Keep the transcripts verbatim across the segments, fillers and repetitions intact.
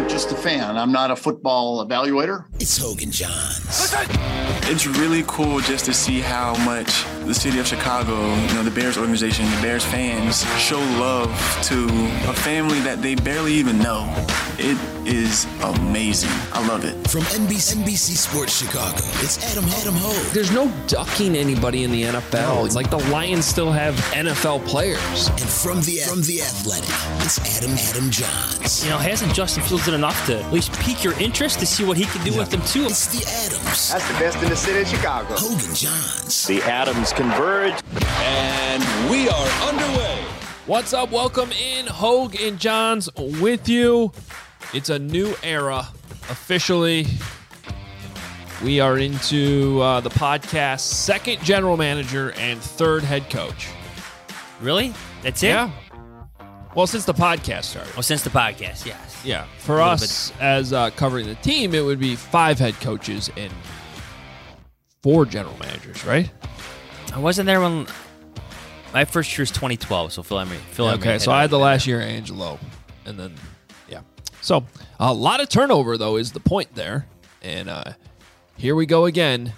just a fan. I'm not a football evaluator. It's Hoge and Johns. It's really cool just to see how much the city of Chicago, you know, the Bears organization, the Bears fans show love to a family that they barely even know. It is amazing. I love it. From N B C, N B C Sports Chicago, it's Adam, Adam Hoge. There's no ducking anybody in the N F L. It's like the Lions still have N F L players. And from the from the Athletic, it's Adam, Adam Johns. You know, hasn't Justin Fields done enough to at least pique your interest to see what he can do yeah. with them, too? It's the Adams. That's the best in the city of Chicago. Hoge and Johns. The Adams converge. And we are underway. What's up? Welcome in. Hoge and Johns with you. It's a new era. Officially, we are into uh, the podcast's second general manager and third head coach. Really? That's it? Yeah. Well, since the podcast started. Oh, since the podcast, yes. Yeah. For us, bit. as uh, covering the team, it would be five head coaches and four general managers, right? I wasn't there when my first year was twenty twelve, so Phil Emery. Phil yeah, Emery okay, so I had the last year Angelo, and then, yeah. So, a lot of turnover, though, is the point there. And uh, here we go again.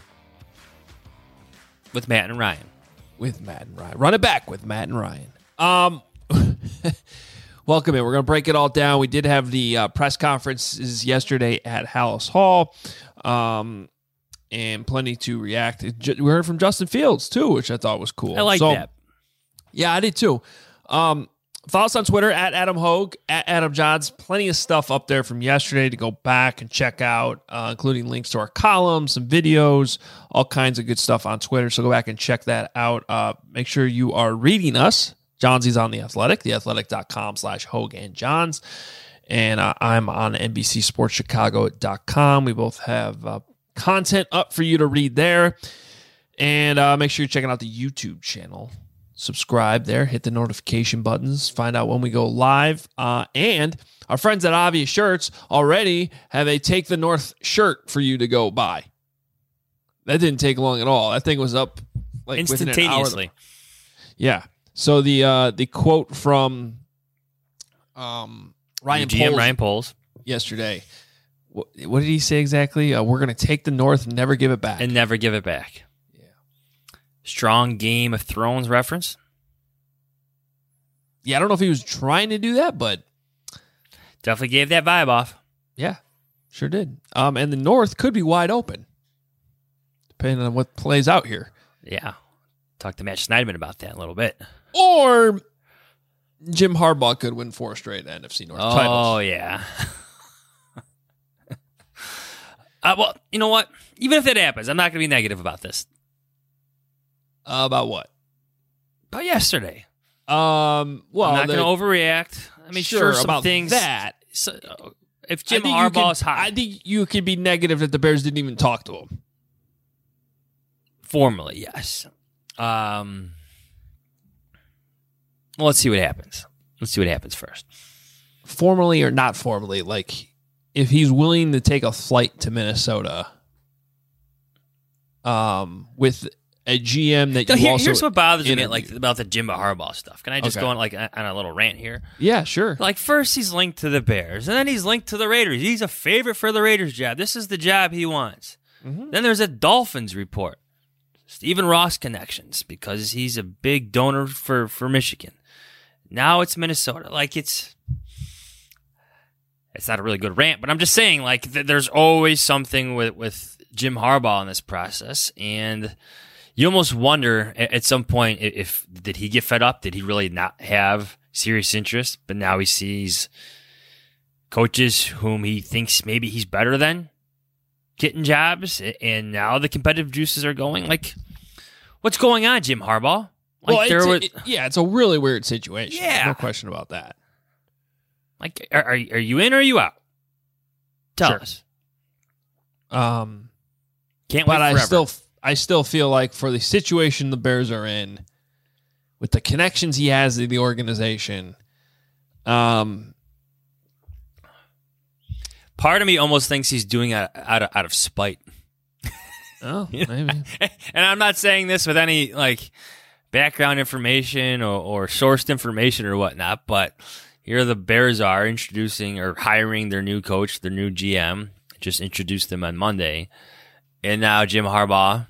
With Matt and Ryan. With Matt and Ryan. Run it back with Matt and Ryan. Um, welcome in. We're going to break it all down. We did have the uh, press conferences yesterday at Hallis Hall. Um, and plenty to react. We heard from Justin Fields, too, which I thought was cool. I like so, that. Yeah, I did, too. Um, follow us on Twitter, at Adam Hoge, at Adam Johns. Plenty of stuff up there from yesterday to go back and check out, uh, including links to our columns, some videos, all kinds of good stuff on Twitter. So go back and check that out. Uh, make sure you are reading us. Johnsy's on The Athletic, theathletic.com slash Hoge and Johns. And uh, I'm on N B C Sports Chicago dot com. We both have uh, content up for you to read there. And uh, make sure you're checking out the YouTube channel. Subscribe there. Hit the notification buttons. Find out when we go live. Uh, and our friends at Obvious Shirts already have a Take the North shirt for you to go buy. That didn't take long at all. That thing was up like instantaneously. Within an hour. Yeah. So the uh, the quote from um, Ryan G M Poles Ryan Poles yesterday. What, what did he say exactly? Uh, we're going to take the North and never give it back. And never give it back. Yeah. Strong Game of Thrones reference. Yeah, I don't know if he was trying to do that, but definitely gave that vibe off. Yeah, sure did. Um, and the North could be wide open, depending on what plays out here. Yeah. Talk to Matt Schneidman about that in a little bit. Or Jim Harbaugh could win four straight N F C North oh, titles. Oh, yeah. uh, well, you know what? Even if that happens, I'm not going to be negative about this. Uh, about what? About yesterday. Um, well, I'm not the, going to overreact. I mean, sure, sure some about things. that. So, if Jim Harbaugh's Harbaugh's hot. I think you could be negative that the Bears didn't even talk to him. Formally, yes. Um, well, let's see what happens. Let's see what happens first. Formally or not formally, like if he's willing to take a flight to Minnesota, um, with a G M that so you here, also here's what bothers interviewed. me, like about the Jimbo Harbaugh stuff. Can I just Okay. go on like on a little rant here? Yeah, sure. Like first he's linked to the Bears, and then he's linked to the Raiders. He's a favorite for the Raiders job. This is the job he wants. Mm-hmm. Then there's a Dolphins report. Stephen Ross connections because he's a big donor for, for Michigan. Now it's Minnesota. Like it's, it's not a really good rant, but I'm just saying like th- there's always something with, with Jim Harbaugh in this process. And you almost wonder at, at some point if, if, did he get fed up? Did he really not have serious interest? But now he sees coaches whom he thinks maybe he's better than getting jobs, and now the competitive juices are going. Like, what's going on, Jim Harbaugh? Like, well, there it's, was, it, yeah, it's a really weird situation. Yeah. No question about that. Like, are, are are you in or are you out? Tell Sure. us. Um, Can't but wait I forever. still, I still feel like for the situation the Bears are in, with the connections he has in the organization, um, part of me almost thinks he's doing it out of, out of spite. oh, maybe. And I'm not saying this with any like background information or, or sourced information or whatnot, but here the Bears are introducing or hiring their new coach, their new G M. Just introduced them on Monday. And now Jim Harbaugh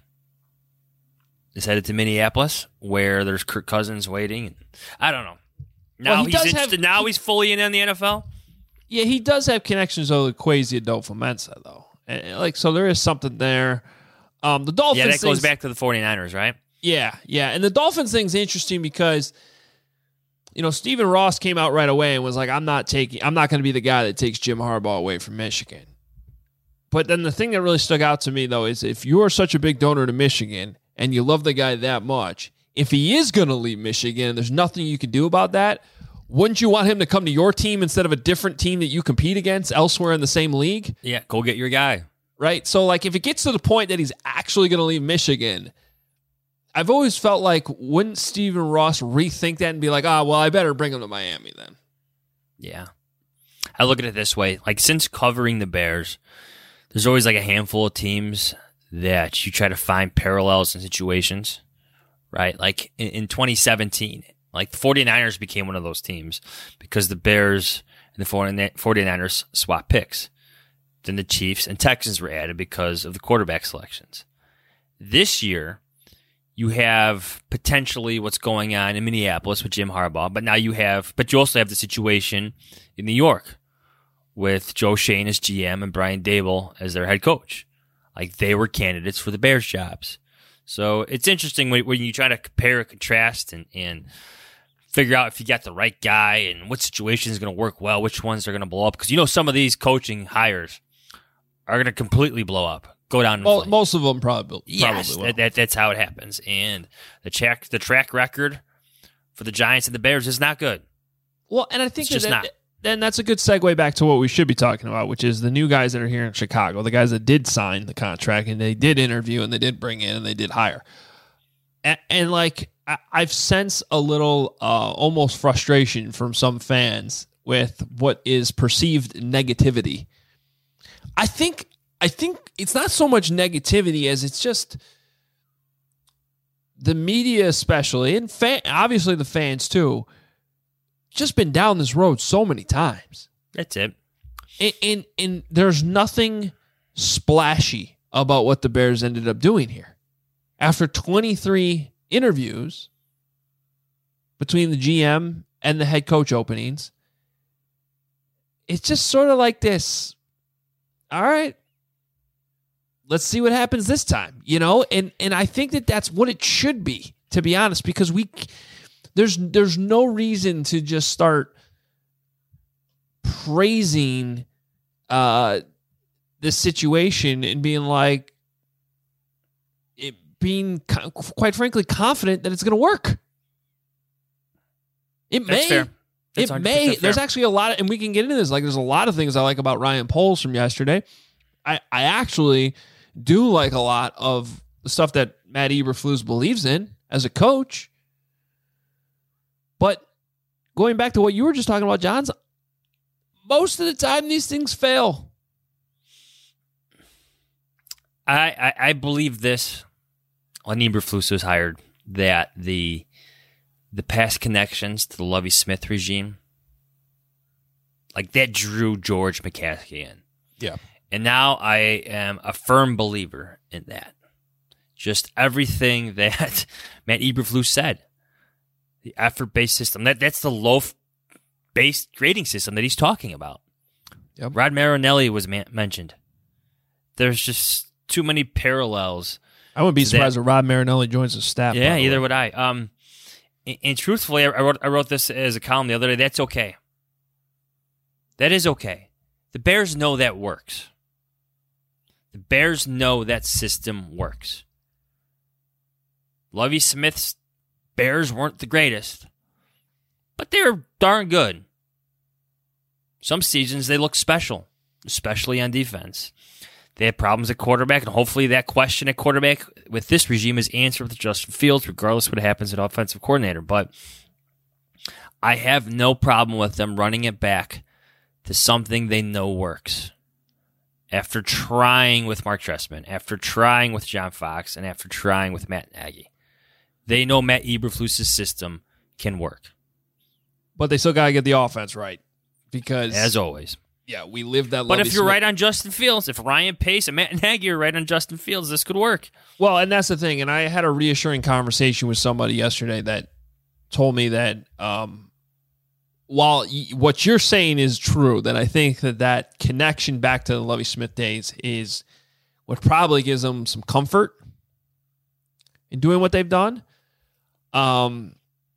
is headed to Minneapolis, where there's Kirk Cousins waiting. I don't know. Now Well, he he's does interested. have- now he's fully in on the N F L. Yeah, he does have connections with Kwesi Adolfo-Mensa, though. And, like, so there is something there. Um, the Dolphins. Yeah, that goes thing's- back to the 49ers, right? Yeah, yeah. And the Dolphins thing's interesting because, you know, Stephen Ross came out right away and was like, I'm not taking, I'm not going to be the guy that takes Jim Harbaugh away from Michigan. But then the thing that really stuck out to me, though, is if you're such a big donor to Michigan and you love the guy that much, if he is going to leave Michigan and there's nothing you can do about that, wouldn't you want him to come to your team instead of a different team that you compete against elsewhere in the same league? Yeah, go get your guy. Right? So, like, if it gets to the point that he's actually going to leave Michigan, I've always felt like, wouldn't Stephen Ross rethink that and be like, ah, well, I better bring him to Miami then? Yeah. I look at it this way. Like, since covering the Bears, there's always like a handful of teams that you try to find parallels in situations, right? Like in, in twenty seventeen, like the 49ers became one of those teams because the Bears and the 49ers swapped picks. Then the Chiefs and Texans were added because of the quarterback selections. This year, you have potentially what's going on in Minneapolis with Jim Harbaugh, but now you have, but you also have the situation in New York with Joe Shane as G M and Brian Daboll as their head coach. Like, they were candidates for the Bears jobs. So it's interesting when, when you try to compare and contrast and, and figure out if you got the right guy and what situation is going to work well, which ones are going to blow up. Because you know some of these coaching hires are going to completely blow up, go down in Well, flames. most of them probably, probably Yes, will. that, that, that's how it happens. And the track, the track record for the Giants and the Bears is not good. Well, and I think It's just that, not. that- then that's a good segue back to what we should be talking about, which is the new guys that are here in Chicago, the guys that did sign the contract and they did interview and they did bring in and they did hire. And, and like, I, I've sensed a little uh, almost frustration from some fans with what is perceived negativity. I think, I think it's not so much negativity as it's just the media, especially, and fan, obviously the fans too, just been down this road so many times. That's it. And, and, and there's nothing splashy about what the Bears ended up doing here. After twenty-three interviews between the G M and the head coach openings, it's just sort of like this. All right, let's see what happens this time, you know? And and I think that that's what it should be, to be honest, because we there's there's no reason to just start praising uh this situation and being like, it being co- quite frankly confident that it's going to work. It That's may. fair. That's It one hundred may. percent fair. There's actually a lot of, and we can get into this. Like, there's a lot of things I like about Ryan Poles from yesterday. I, I actually do like a lot of the stuff that Matt Eberflus believes in as a coach. But going back to what you were just talking about, Johns, most of the time these things fail. I, I, I believe this when Eberflus was hired, that the the past connections to the Lovie Smith regime, like that drew George McCaskey in. Yeah. And now I am a firm believer in that. Just everything that Matt Eberflus said. The effort-based system. That That's the loaf-based grading system that he's talking about. Yep. Rod Marinelli was man- mentioned. There's just too many parallels. I wouldn't be That- surprised if Rod Marinelli joins the staff. Yeah, by the either way. would I. Um, and, and truthfully, I I wrote I wrote this as a column the other day. That's okay. That is okay. The Bears know that works. The Bears know that system works. Lovie Smith's Bears weren't the greatest, but they were darn good. Some seasons they look special, especially on defense. They had problems at quarterback, and hopefully that question at quarterback with this regime is answered with Justin Fields, regardless of what happens at offensive coordinator. But I have no problem with them running it back to something they know works. After trying with Mark Trestman, after trying with John Fox, and after trying with Matt Nagy. They know Matt Eberflus' system can work. but they still got to get the offense right because, As always. yeah, we lived that. But Lovie if you're Smith- right on Justin Fields, if Ryan Pace and Matt Nagy are right on Justin Fields, this could work. Well, and that's the thing. And I had a reassuring conversation with somebody yesterday that told me that um, while y- what you're saying is true, that I think that that connection back to the Lovie Smith days is what probably gives them some comfort in doing what they've done. Um,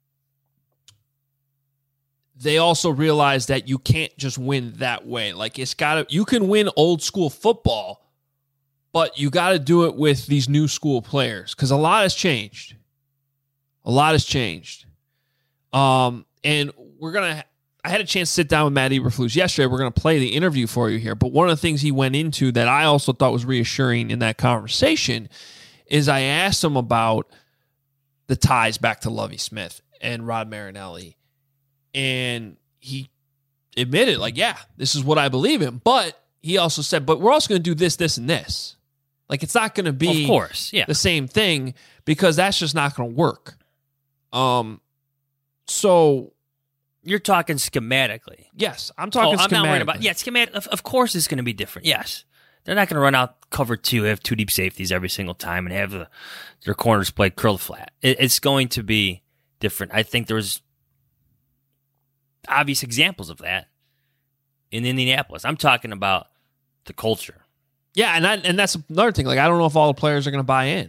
they also realize that you can't just win that way. Like it's got to, you can win old school football, but you got to do it with these new school players because a lot has changed. A lot has changed. Um, and we're going to, I had a chance to sit down with Matt Eberflus yesterday. We're going to play the interview for you here. But one of the things he went into that I also thought was reassuring in that conversation is I asked him about the ties back to Lovie Smith and Rod Marinelli. And he admitted, like, yeah, this is what I believe in. But he also said, but we're also going to do this, this, and this. Like, it's not going to be Of course, yeah. the same thing because that's just not going to work. Um, so You're talking schematically. yes, I'm talking oh, I'm not worried schematically. about. Yeah, schematic. Of, of course, it's going to be different. Yes, they're not going to run out cover two, have two deep safeties every single time, and have the, their corners play curled flat. It, it's going to be different. I think there was obvious examples of that in Indianapolis. I'm talking about the culture. Yeah, and I, and that's another thing. Like, I don't know if all the players are going to buy in.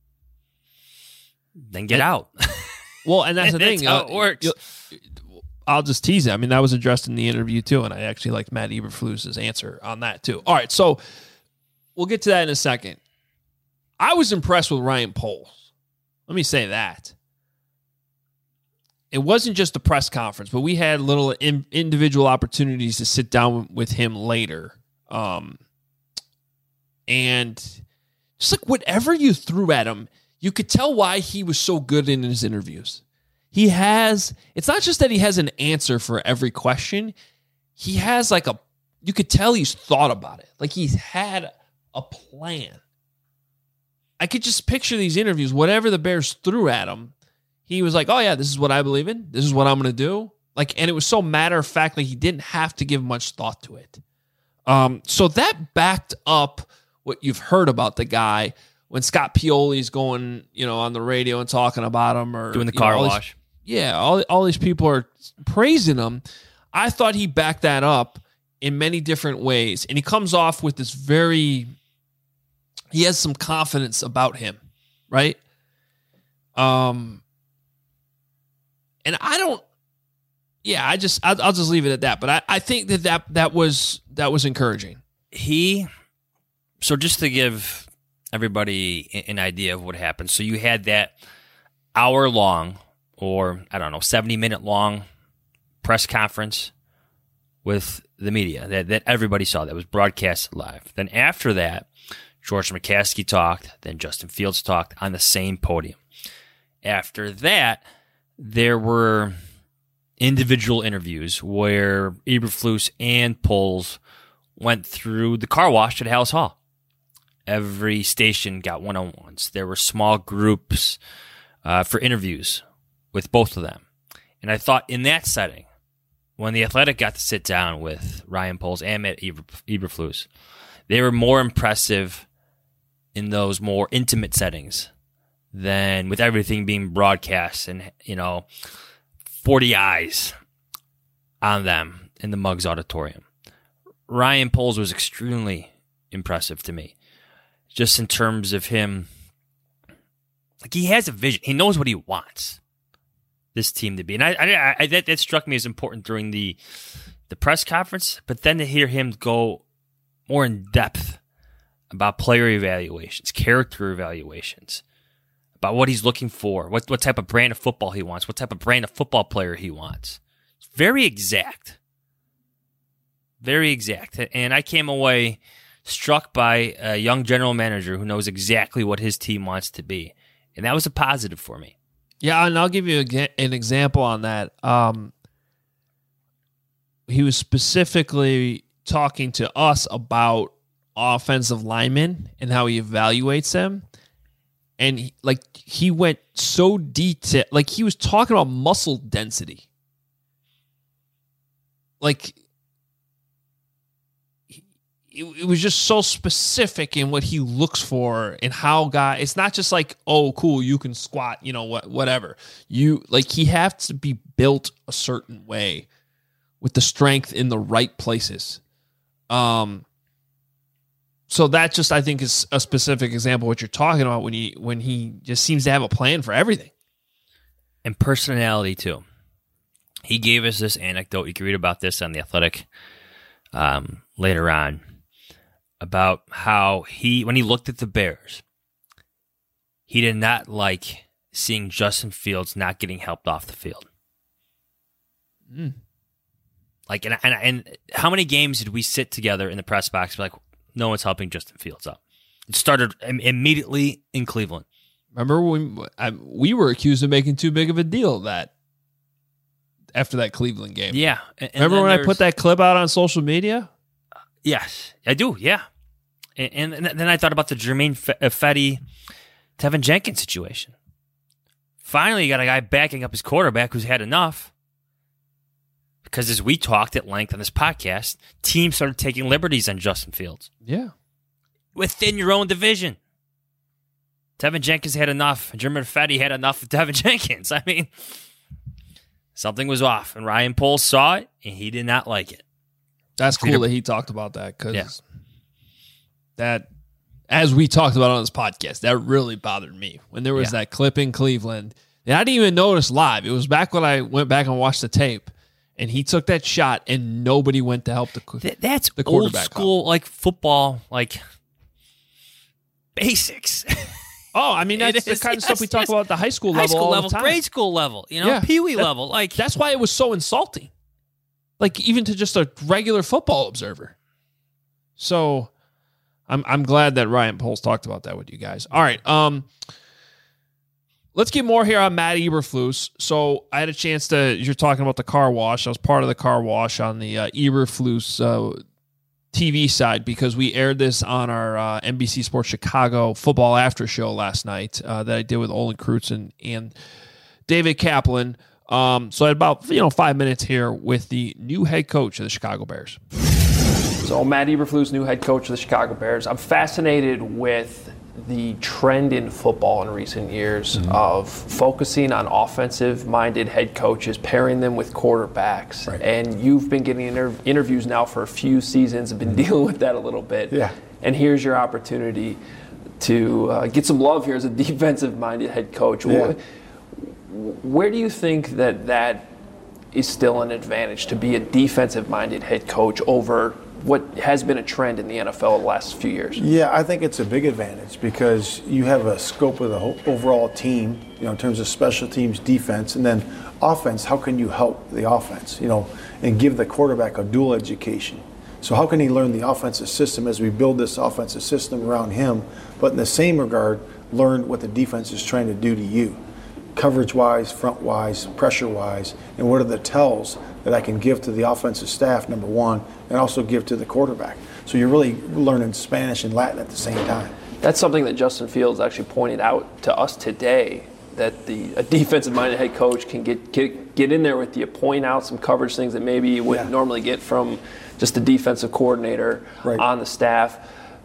Then get out. Well, and that's the That's thing. how uh, it works. you- I'll just tease it. I mean, that was addressed in the interview too, and I actually liked Matt Eberflus's answer on that too. All right, so we'll get to that in a second. I was impressed with Ryan Poles. Let me say that. It wasn't just the press conference, but we had little in, individual opportunities to sit down with him later. Um, and just like whatever you threw at him, you could tell why he was so good in his interviews. He has, it's not just that he has an answer for every question. He has like a, you could tell he's thought about it. Like he's had a plan. I could just picture these interviews, whatever the Bears threw at him, he was like, oh yeah, this is what I believe in. This is what I'm going to do. Like, and it was so matter of fact, like he didn't have to give much thought to it. Um, so that backed up what you've heard about the guy when Scott Pioli's going, you know, on the radio and talking about him or Doing the you car know, all these- wash. yeah, all, all these people are praising him. I thought he backed that up in many different ways. And he comes off with this very, he has some confidence about him, right? Um, and I don't, yeah, I just, I'll, I'll just leave it at that. But I, I think that, that that was, that was encouraging. He, so just to give everybody an idea of what happened. So you had that hour long, or I don't know, seventy minute long press conference with the media that, that everybody saw that was broadcast live. Then after that, George McCaskey talked, then Justin Fields talked on the same podium. After that, there were individual interviews where Eberflus and Poles went through the car wash at Hallis Hall. Every station got one-on-ones. There were small groups uh, for interviews with both of them. And I thought in that setting, when the Athletic got to sit down with Ryan Poles and Matt Eber- Eberflus, they were more impressive in those more intimate settings than with everything being broadcast and, you know, forty eyes on them in the Muggs Auditorium. Ryan Poles was extremely impressive to me, just in terms of him. Like, he has a vision. He knows what he wants this team to be. And I, I, I that, that struck me as important during the the press conference. But then to hear him go more in depth about player evaluations, character evaluations, about what he's looking for, what what type of brand of football he wants, what type of brand of football player he wants. It's very exact. Very exact. And I came away struck by a young general manager who knows exactly what his team wants to be. And that was a positive for me. Yeah, and I'll give you a, an example on that. Um, he was specifically talking to us about offensive linemen and how he evaluates them. And he, like he went so detailed, like he was talking about muscle density. like it, it was just so specific in what he looks for and how guy. It's not just like, oh, cool, you can squat, you know what, whatever. You like he has to be built a certain way with the strength in the right places. Um. So that just, I think, is a specific example of what you're talking about when he when he just seems to have a plan for everything. And personality, too. He gave us this anecdote. You can read about this on The Athletic um, later on, about how he, when he looked at the Bears, he did not like seeing Justin Fields not getting helped off the field. Mm. Like, and, and and how many games did we sit together in the press box and be like, no one's helping Justin Fields up? It started im- immediately in Cleveland. Remember when I, we were accused of making too big of a deal of that after that Cleveland game? Yeah. And, and Remember when I there's- put that clip out on social media? Yes, I do. Yeah. And, and then I thought about the Jermaine Fetty, Tevin Jenkins situation. Finally, you got a guy backing up his quarterback who's had enough. Because as we talked at length on this podcast, teams started taking liberties on Justin Fields. Yeah. Within your own division. Tevin Jenkins had enough. Jermaine Fetty had enough of Tevin Jenkins. I mean, something was off. And Ryan Poles saw it, and he did not like it. That's cool that he talked about that because yeah. that, as we talked about on this podcast, that really bothered me. When there was yeah. that clip in Cleveland, and I didn't even notice live. It was back when I went back and watched the tape. And he took that shot, and nobody went to help the Th- That's the old school, like football, like basics. Oh, I mean, that's the is, kind of yes, stuff we talk yes. about at the high school high level school all level, the time. grade school level, you know, yeah. Pee-wee that, level. Like That's why it was so insulting. Like, even to just a regular football observer. So, I'm I'm glad that Ryan Poles talked about that with you guys. All right, um... let's get more here on Matt Eberflus. So I had a chance to, you're talking about the car wash. I was part of the car wash on the uh, Eberflus uh, T V side because we aired this on our uh, N B C Sports Chicago football after show last night uh, that I did with Olin Crutzen and David Kaplan. Um, so I had about, you know, five minutes here with the new head coach of the Chicago Bears. So Matt Eberflus, new head coach of the Chicago Bears. I'm fascinated with the trend in football in recent years mm-hmm. of focusing on offensive-minded head coaches, pairing them with quarterbacks. Right. And you've been getting inter- interviews now for a few seasons and been mm-hmm. dealing with that a little bit. Yeah. And here's your opportunity to uh, get some love here as a defensive-minded head coach. Yeah. Where, where do you think that that is still an advantage to be a defensive-minded head coach over what has been a trend in the N F L the last few years? Yeah, I think it's a big advantage because you have a scope of the whole overall team, you know, in terms of special teams, defense, and then offense. How can you help the offense, you know, and give the quarterback a dual education? So how can he learn the offensive system as we build this offensive system around him, but in the same regard, learn what the defense is trying to do to you, coverage-wise, front-wise, pressure-wise, and what are the tells that I can give to the offensive staff, number one, and also give to the quarterback. So you're really learning Spanish and Latin at the same time. That's something that Justin Fields actually pointed out to us today, that the a defensive-minded head coach can get, get get in there with you, point out some coverage things that maybe you wouldn't Yeah. normally get from just the defensive coordinator Right. on the staff.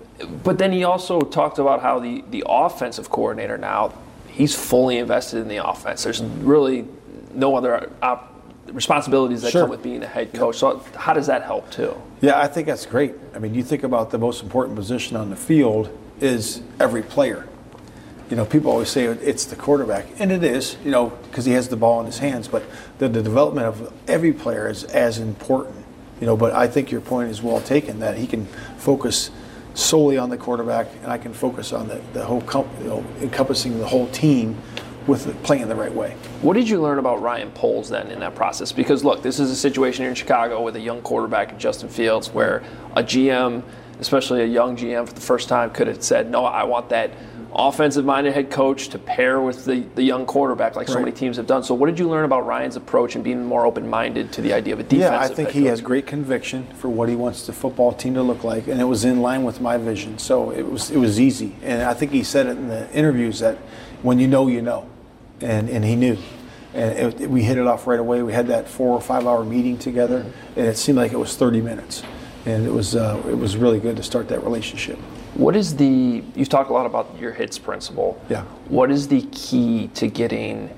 But then he also talked about how the, the offensive coordinator now, he's fully invested in the offense. There's really no other op- responsibilities that Sure. come with being a head coach. So how does that help too? Yeah, I think that's great. I mean, you think about the most important position on the field is every player. You know, people always say it's the quarterback, and it is, you know, because he has the ball in his hands, but the, the development of every player is as important, you know, but I think your point is well taken, that he can focus solely on the quarterback, and I can focus on the, the whole, com- you know, encompassing the whole team with the, playing the right way. What did you learn about Ryan Poles then in that process? Because look, this is a situation here in Chicago with a young quarterback, Justin Fields, where a G M, especially a young G M for the first time, could have said, no, I want that offensive-minded head coach to pair with the, the young quarterback like so Right. many teams have done. So what did you learn about Ryan's approach and being more open-minded to the idea of a defensive Yeah, I think head he coach? has great conviction for what he wants the football team to look like, and it was in line with my vision. So it was it was easy, and I think he said it in the interviews that when you know, you know, and and he knew. And it, it- we hit it off right away. We had that four or five hour meeting together, and it seemed like it was thirty minutes. And it was uh, it was really good to start that relationship. What is the, you've talked a lot about your HITS principle. Yeah. What is the key to getting,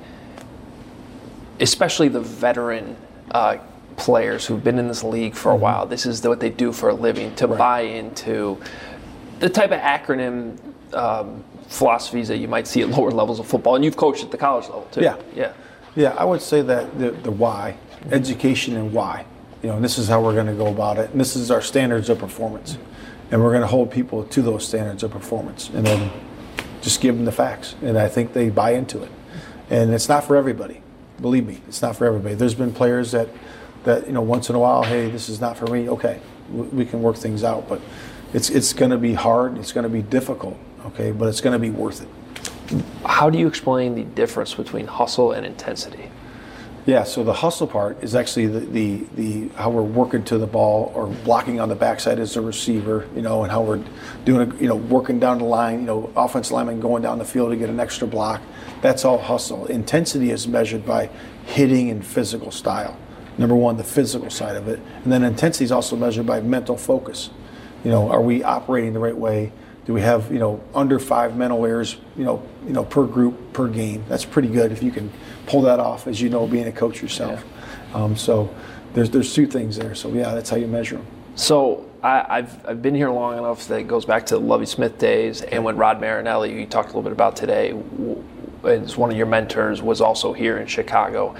especially the veteran uh, players who've been in this league for a Mm-hmm. while, this is what they do for a living, to buy into the type of acronym um, philosophies that you might see at lower levels of football? And you've coached at the college level too. Yeah. Yeah. Yeah, I would say that the, the why, education and why. You know, and this is how we're going to go about it. And this is our standards of performance. And we're going to hold people to those standards of performance. And then just give them the facts. And I think they buy into it. And it's not for everybody. Believe me, it's not for everybody. There's been players that, that you know, once in a while, hey, this is not for me. Okay, we, we can work things out. But it's, it's going to be hard. It's going to be difficult. Okay, but it's going to be worth it. How do you explain the difference between hustle and intensity? Yeah, so the hustle part is actually the, the, the how we're working to the ball or blocking on the backside as a receiver, you know, and how we're doing, a, you know, working down the line, you know, offensive lineman going down the field to get an extra block. That's all hustle. Intensity is measured by hitting and physical style. Number one, the physical side of it. And then intensity is also measured by mental focus. You know, are we operating the right way? Do we have, you know, under five mental errors, you know, you know, per group, per game? That's pretty good if you can pull that off, as you know, being a coach yourself. Yeah. Um, so there's there's two things there. So yeah, that's how you measure them. So I, I've I've been here long enough that it goes back to the Lovie Smith days, and when Rod Marinelli, who you talked a little bit about today, is one of your mentors, was also here in Chicago.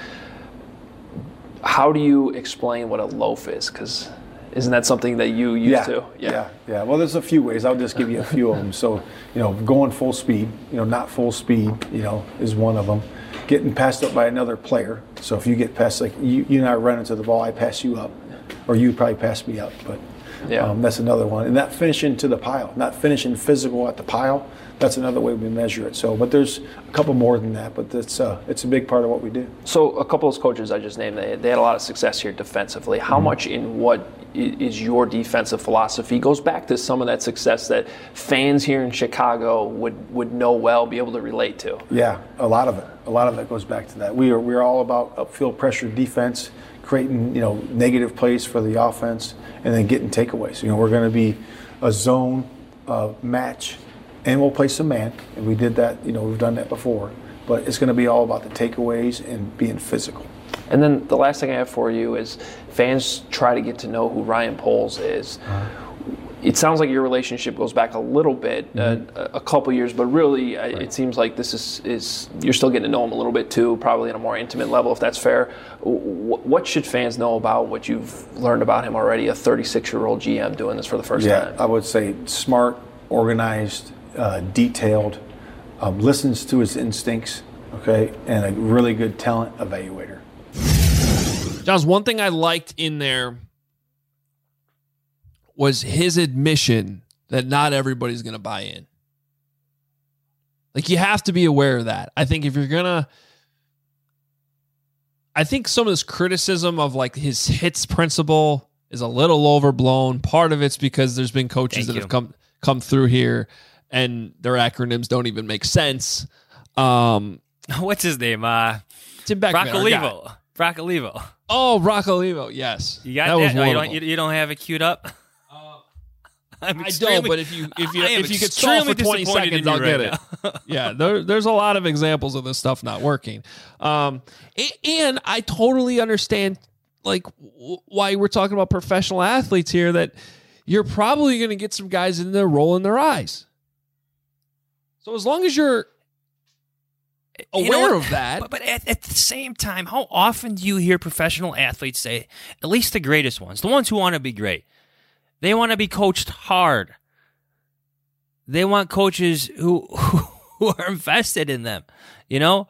How do you explain what a loaf is? Because isn't that something that you used yeah, to? Yeah. yeah, yeah. Well, there's a few ways. I'll just give you a few of them. So, you know, going full speed, you know, not full speed, you know, is one of them. Getting passed up by another player. So if you get passed, like you, you and I run into the ball, I pass you up, or you probably pass me up, but yeah. um, that's another one. And not finishing to the pile, not finishing physical at the pile. That's another way we measure it. So, but there's a couple more than that, but it's uh, it's a big part of what we do. So a couple of those coaches I just named, they, they had a lot of success here defensively. How mm-hmm. much in what is your defensive philosophy goes back to some of that success that fans here in Chicago would, would know well, be able to relate to? Yeah, a lot of it. A lot of it goes back to that. We are we're all about upfield pressure defense, creating, you know, negative plays for the offense, and then getting takeaways. You know, we're going to be a zone uh, match, and we'll play some man, and we did that. You know, we've done that before, but it's going to be all about the takeaways and being physical. And then the last thing I have for you is fans try to get to know who Ryan Poles is. Uh-huh. It sounds like your relationship goes back a little bit, mm-hmm. uh, a couple years, but really right. it seems like this is, is you're still getting to know him a little bit too, probably on a more intimate level, if that's fair. What should fans know about what you've learned about him already, a thirty-six-year-old G M doing this for the first yeah, time? I would say smart, organized, uh, detailed, um, listens to his instincts, okay, and a really good talent evaluator. Johns, one thing I liked in there was his admission that not everybody's going to buy in. Like, you have to be aware of that. I think if you're going to, I think some of this criticism of like his HITS principle is a little overblown. Part of it's because there's been coaches Thank that you. have come, come through here and their acronyms don't even make sense. Um, What's his name? Uh, Tim Beckman. Brock Olivo. Brock Olivo. Oh, Brock Olivo. Yes. You got that? that? Was no, you, don't, wonderful. you, you don't have it queued up? I'm I don't, but if you if you if you could stall extremely for twenty seconds, I'll right get it. Yeah, there, there's a lot of examples of this stuff not working, um, and, and I totally understand like w- why we're talking about professional athletes here. That you're probably going to get some guys in there rolling their eyes. So as long as you're aware you know of that, but, but at, at the same time, how often do you hear professional athletes say, at least the greatest ones, the ones who want to be great? They want to be coached hard. They want coaches who who are invested in them. You know?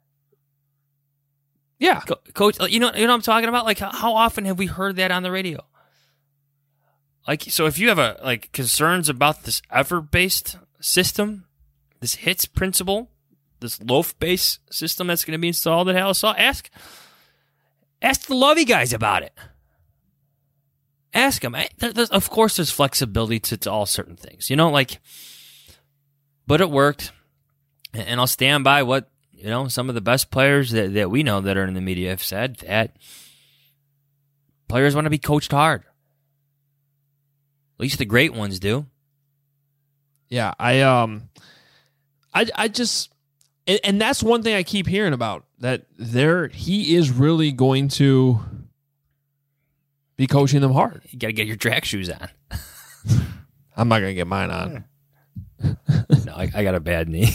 Yeah. Co- coach, you know, you know what I'm talking about? Like, how often have we heard that on the radio? Like, so if you have a like concerns about this effort-based system, this HITS principle, this loaf-based system that's going to be installed at Halisaw, ask ask the Lovie guys about it. Ask them. Of course, there's flexibility to, to all certain things, you know, like, but it worked, and I'll stand by what you know, some of the best players that, that we know that are in the media have said that players want to be coached hard. At least the great ones do. Yeah, I um, I I just, and, and that's one thing I keep hearing about, that there he is really going to be coaching them hard. You got to get your track shoes on. I'm not gonna get mine on. No, I, I got a bad knee.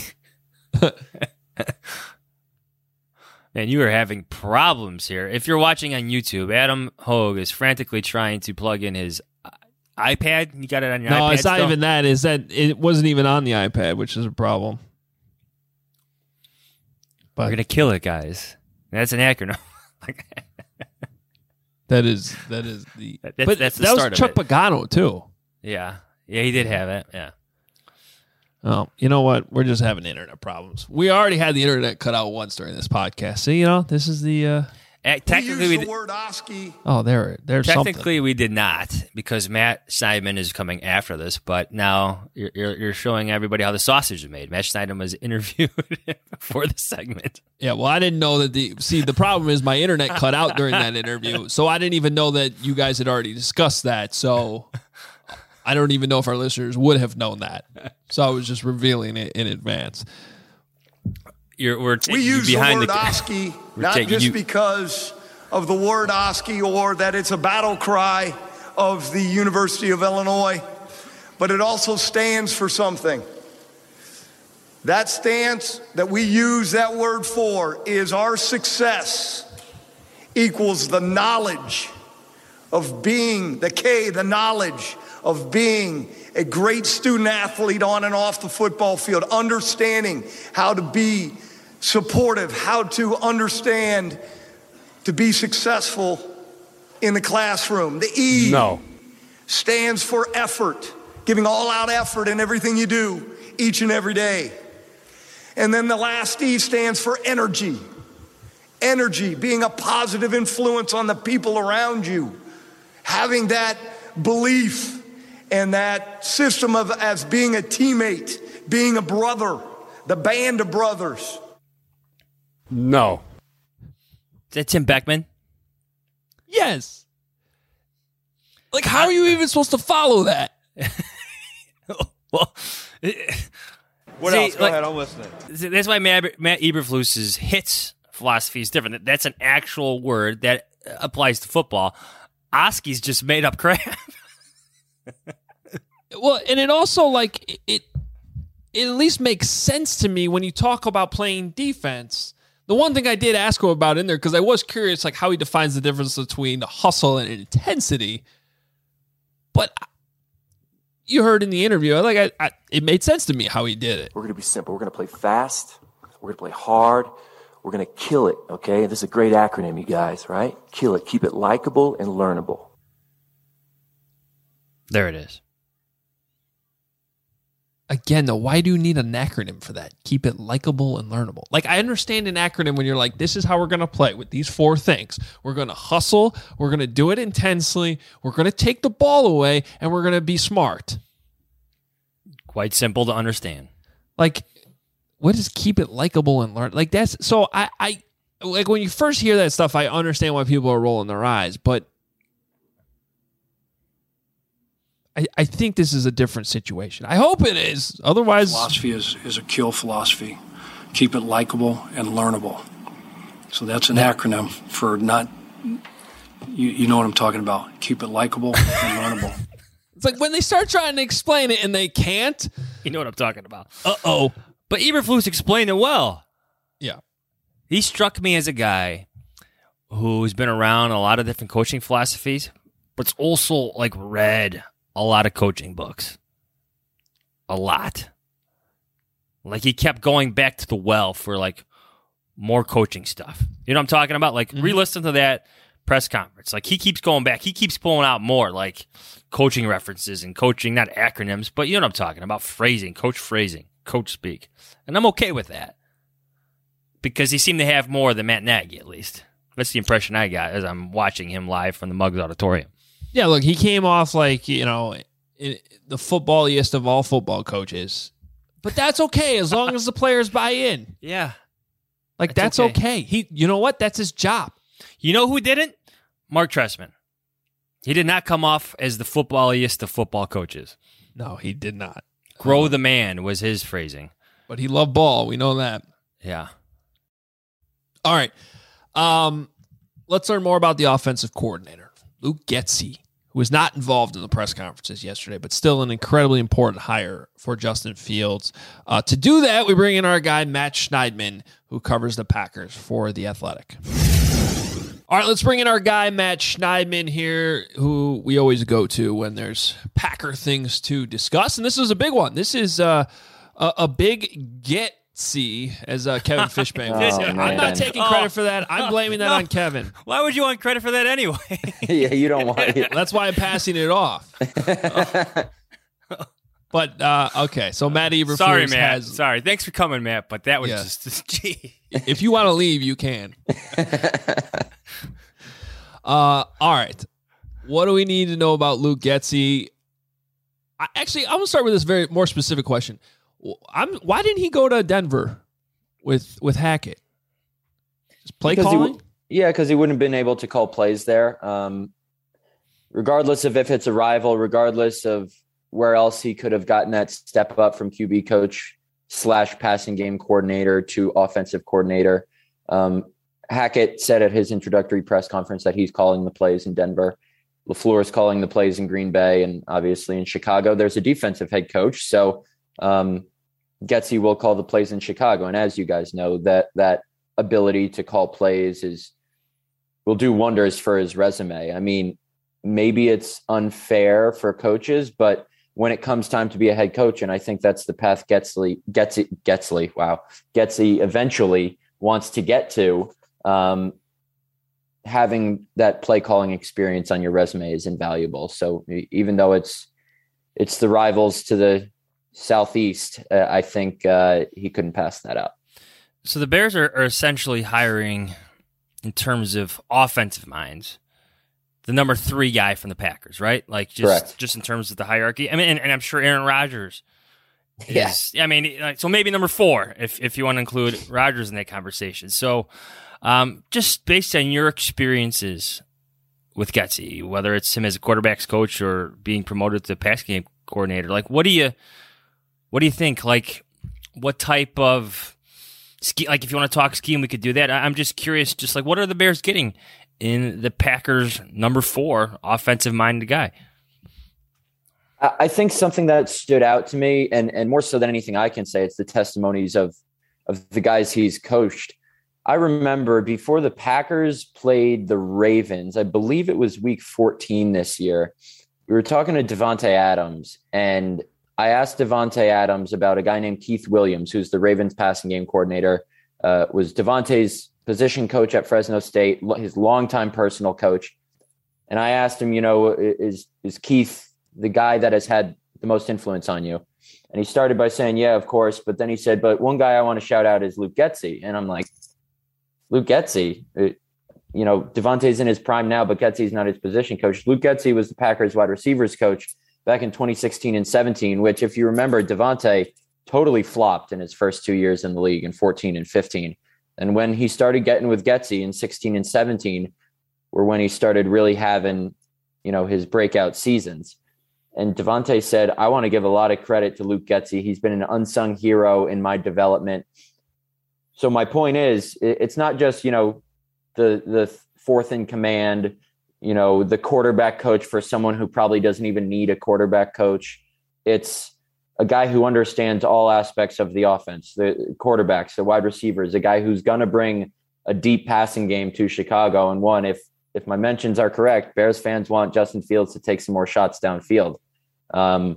Man, you are having problems here. If you're watching on YouTube, Adam Hogue is frantically trying to plug in his iPad. You got it on your no, iPad? No, it's not still? even that. Is that it wasn't even on the iPad, which is a problem. But we're gonna kill it, guys. That's an acronym. that is that is the. That, that's, but that's the that start was Chuck of it. Pagano too. Yeah, yeah, he did have it. Yeah. Oh, you know what? We're just having internet problems. We already had the internet cut out once during this podcast. So, you know, this is the. Uh, uh, technically, we we use the word Oski. Oh, there, there's technically something. we did not, because Matt Schneidman is coming after this. But now you're, you're, you're showing everybody how the sausage is made. Matt Schneidman was interviewed for the segment. Yeah, well, I didn't know that the. See, the problem is my internet cut out during that interview, so I didn't even know that you guys had already discussed that. So. I don't even know if our listeners would have known that. So I was just revealing it in advance. You're, we're taking we you use behind the word the Oski, not taking just you- because of the word Oski or that it's a battle cry of the University of Illinois, but it also stands for something. That stance that we use that word for is our success equals the knowledge of being, the K, the knowledge of being a great student athlete on and off the football field, understanding how to be supportive, how to understand to be successful in the classroom. The E No. stands for effort, giving all out effort in everything you do each and every day. And then the last E stands for energy. Energy, being a positive influence on the people around you, having that belief and that system of as being a teammate, being a brother, the band of brothers. No. Is that Tim Beckman? Yes. Like, how are you even supposed to follow that? Well, What see, else? Go like, ahead, I'm listening. see, that's why Matt, Matt Eberflus's hits philosophy is different. That's an actual word that applies to football. Oski's just made up crap. Well, and it also, like, it, it at least makes sense to me when you talk about playing defense. The one thing I did ask him about in there, because I was curious, like, how he defines the difference between hustle and intensity. But you heard in the interview, like, I, I, it made sense to me how he did it. We're going to be simple. We're going to play fast. We're going to play hard. We're going to kill it, okay? This is a great acronym, you guys, right? Kill it. Keep it likable and learnable. There it is. Again, though, why do you need an acronym for that? Keep it likable and learnable. Like, I understand an acronym when you're like, this is how we're going to play with these four things. We're going to hustle. We're going to do it intensely. We're going to take the ball away, and we're going to be smart. Quite simple to understand. Like, what is keep it likable and learn? Like, that's so I, I like when you first hear that stuff, I understand why people are rolling their eyes, but I, I think this is a different situation. I hope it is. Otherwise, philosophy is, is a kill philosophy. Keep it likable and learnable. So that's an acronym for not, you, you know what I'm talking about. Keep it likable and learnable. It's like when they start trying to explain it and they can't. You know what I'm talking about. Uh-oh. But Eberflus explained it well. Yeah. He struck me as a guy who's been around a lot of different coaching philosophies, but's also like read a lot of coaching books. A lot. Like he kept going back to the well for like more coaching stuff. You know what I'm talking about? Like mm-hmm. re-listen to that press conference. Like he keeps going back. He keeps pulling out more like coaching references and coaching, not acronyms, but you know what I'm talking about. Phrasing, coach phrasing, coach speak. And I'm okay with that. Because he seemed to have more than Matt Nagy, at least. That's the impression I got as I'm watching him live from the Muggs Auditorium. Yeah, look, he came off like, you know, the footballiest of all football coaches. But that's okay as long as the players buy in. Yeah. Like, That's that's okay. okay. He, you know what? That's his job. You know who didn't? Mark Trestman. He did not come off as the footballiest of football coaches. No, he did not. Grow the man was his phrasing. But he loved ball. We know that. Yeah. All right. Um, let's learn more about the offensive coordinator, Luke Getsy, who was not involved in the press conferences yesterday, but still an incredibly important hire for Justin Fields. Uh, to do that, we bring in our guy, Matt Schneidman, who covers the Packers for The Athletic. All right, let's bring in our guy, Matt Schneidman here, who we always go to when there's Packer things to discuss. And this is a big one. This is uh, a, a big get-see, as uh, Kevin Fishbane would say. Oh, I'm not taking credit for that. I'm blaming that No. on Kevin. Why would you want credit for that anyway? Yeah, you don't want it. That's why I'm passing it off. But, uh, okay, so Matt Eberflus Sorry, Matt. has... Sorry. Thanks for coming, Matt, but that was Yeah. just, gee. If you want to leave, you can. uh, all right. What do we need to know about Luke Getsy? I, actually, I'm going to start with this very more specific question. I'm, why didn't he go to Denver with with Hackett? Just play Because he calling? w- yeah, because he wouldn't have been able to call plays there. Um, regardless of if it's a rival, regardless of where else he could have gotten that step up from Q B coach slash passing game coordinator to offensive coordinator. Um, Hackett said at his introductory press conference that he's calling the plays in Denver. LaFleur is calling the plays in Green Bay, and obviously in Chicago, there's a defensive head coach. So um, Getsy will call the plays in Chicago. And as you guys know, that that ability to call plays is will do wonders for his resume. I mean, maybe it's unfair for coaches, but when it comes time to be a head coach, and I think that's the path Getsy, Getsy, Getsy, wow, Getsy eventually wants to get to, um, having that play calling experience on your resume is invaluable. So even though it's it's the rivals to the southeast, uh, I think uh, he couldn't pass that up. So the Bears are, are essentially hiring, in terms of offensive minds, the number three guy from the Packers, right? Like just Correct. just in terms of the hierarchy. I mean, and, and I'm sure Aaron Rodgers is. Yeah. I mean, like, so maybe number four if if you want to include Rodgers in that conversation. So, um, just based on your experiences with Getsy, whether it's him as a quarterbacks coach or being promoted to pass game coordinator, like what do you what do you think? Like, what type of scheme? Like, if you want to talk scheme, we could do that. I- I'm just curious. Just like, what are the Bears getting in the Packers' number four offensive-minded guy? I I think something that stood out to me, and, and more so than anything I can say, it's the testimonies of of the guys he's coached. I remember before the Packers played the Ravens, I believe it was week fourteen this year, we were talking to Davante Adams, and I asked Davante Adams about a guy named Keith Williams, who's the Ravens passing game coordinator, uh, was Davante's position coach at Fresno State, his longtime personal coach. And I asked him, you know, is is Keith the guy that has had the most influence on you? And he started by saying, yeah, of course. But then he said, but one guy I want to shout out is Luke Getsy. And I'm like, Luke Getsy, it, you know, Davante's in his prime now, but Getsy's not his position coach. Luke Getsy was the Packers wide receivers coach back in twenty sixteen and seventeen, which, if you remember, Davante totally flopped in his first two years in the league in fourteen and fifteen. And when he started getting with Getsy in sixteen and seventeen, were when he started really having, you know, his breakout seasons. And Davante said, I want to give a lot of credit to Luke Getsy. He's been an unsung hero in my development. So my point is, it's not just, you know, the the fourth in command, you know, the quarterback coach for someone who probably doesn't even need a quarterback coach. It's a guy who understands all aspects of the offense, the quarterbacks, the wide receivers, a guy who's going to bring a deep passing game to Chicago. And one, if if my mentions are correct, Bears fans want Justin Fields to take some more shots downfield. Um,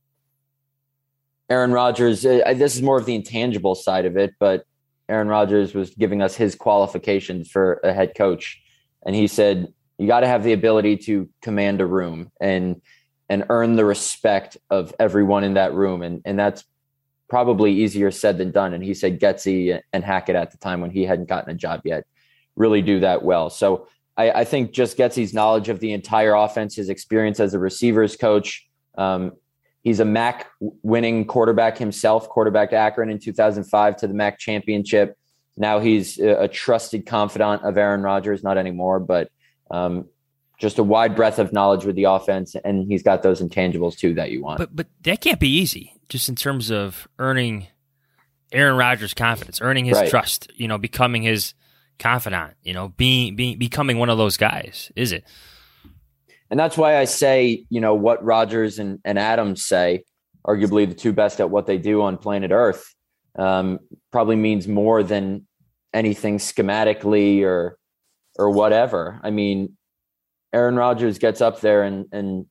Aaron Rodgers, uh, this is more of the intangible side of it, but Aaron Rodgers was giving us his qualifications for a head coach. And he said, you got to have the ability to command a room and and earn the respect of everyone in that room. And, and that's probably easier said than done. And he said Getsy and Hackett at the time, when he hadn't gotten a job yet, really do that well. So I, I think just Getsy's knowledge of the entire offense, his experience as a receivers coach. Um, he's a M A C winning quarterback himself, quarterbacked Akron in two thousand five to the M A C championship. now he's a, a trusted confidant of Aaron Rodgers, not anymore, but um, just a wide breadth of knowledge with the offense, and he's got those intangibles too that you want. But but that can't be easy, just in terms of earning Aaron Rodgers' confidence, earning his Right. trust, you know, becoming his confidant, you know, being being becoming one of those guys, is it? And that's why I say, you know, what Rodgers and, and Adams say, arguably the two best at what they do on planet Earth, um, probably means more than anything schematically or or whatever. I mean, Aaron Rodgers gets up there and, and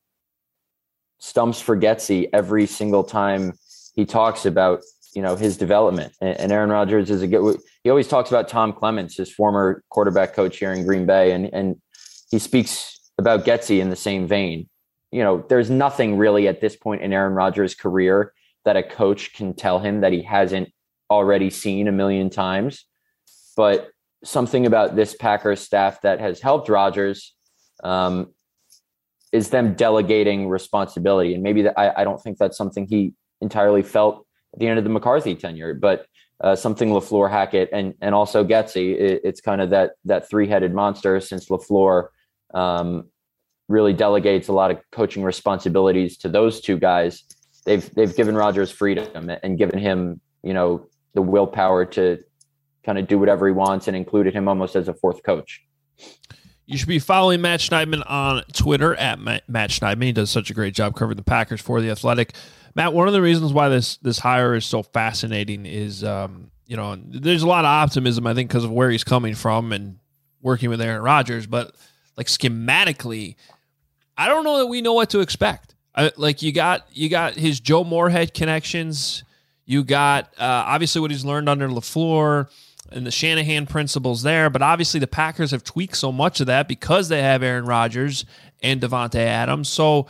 stumps for Getsy every single time he talks about, you know, his development. And, and Aaron Rodgers is a good, he always talks about Tom Clements, his former quarterback coach here in Green Bay. And, and he speaks about Getsy in the same vein. You know, there's nothing really at this point in Aaron Rodgers' career that a coach can tell him that he hasn't already seen a million times. But something about this Packers staff that has helped Rodgers um, is them delegating responsibility. And maybe that, I, I don't think that's something he entirely felt at the end of the McCarthy tenure, but uh, something LaFleur, Hackett, and and also Getsy, it, it's kind of that that three-headed monster since LaFleur um, really delegates a lot of coaching responsibilities to those two guys. They've they've given Rodgers freedom and given him, you know, the willpower to kind of do whatever he wants, and included him almost as a fourth coach. You should be following Matt Schneidman on Twitter at Matt Schneidman. He does such a great job covering the Packers for The Athletic. Matt, one of the reasons why this this hire is so fascinating is, um, you know, there's a lot of optimism, I think, because of where he's coming from and working with Aaron Rodgers. But like schematically, I don't know that we know what to expect. I, like you got you got his Joe Moorhead connections. You got uh, obviously what he's learned under LaFleur and the Shanahan principles there. But obviously the Packers have tweaked so much of that because they have Aaron Rodgers and Davante Adams. So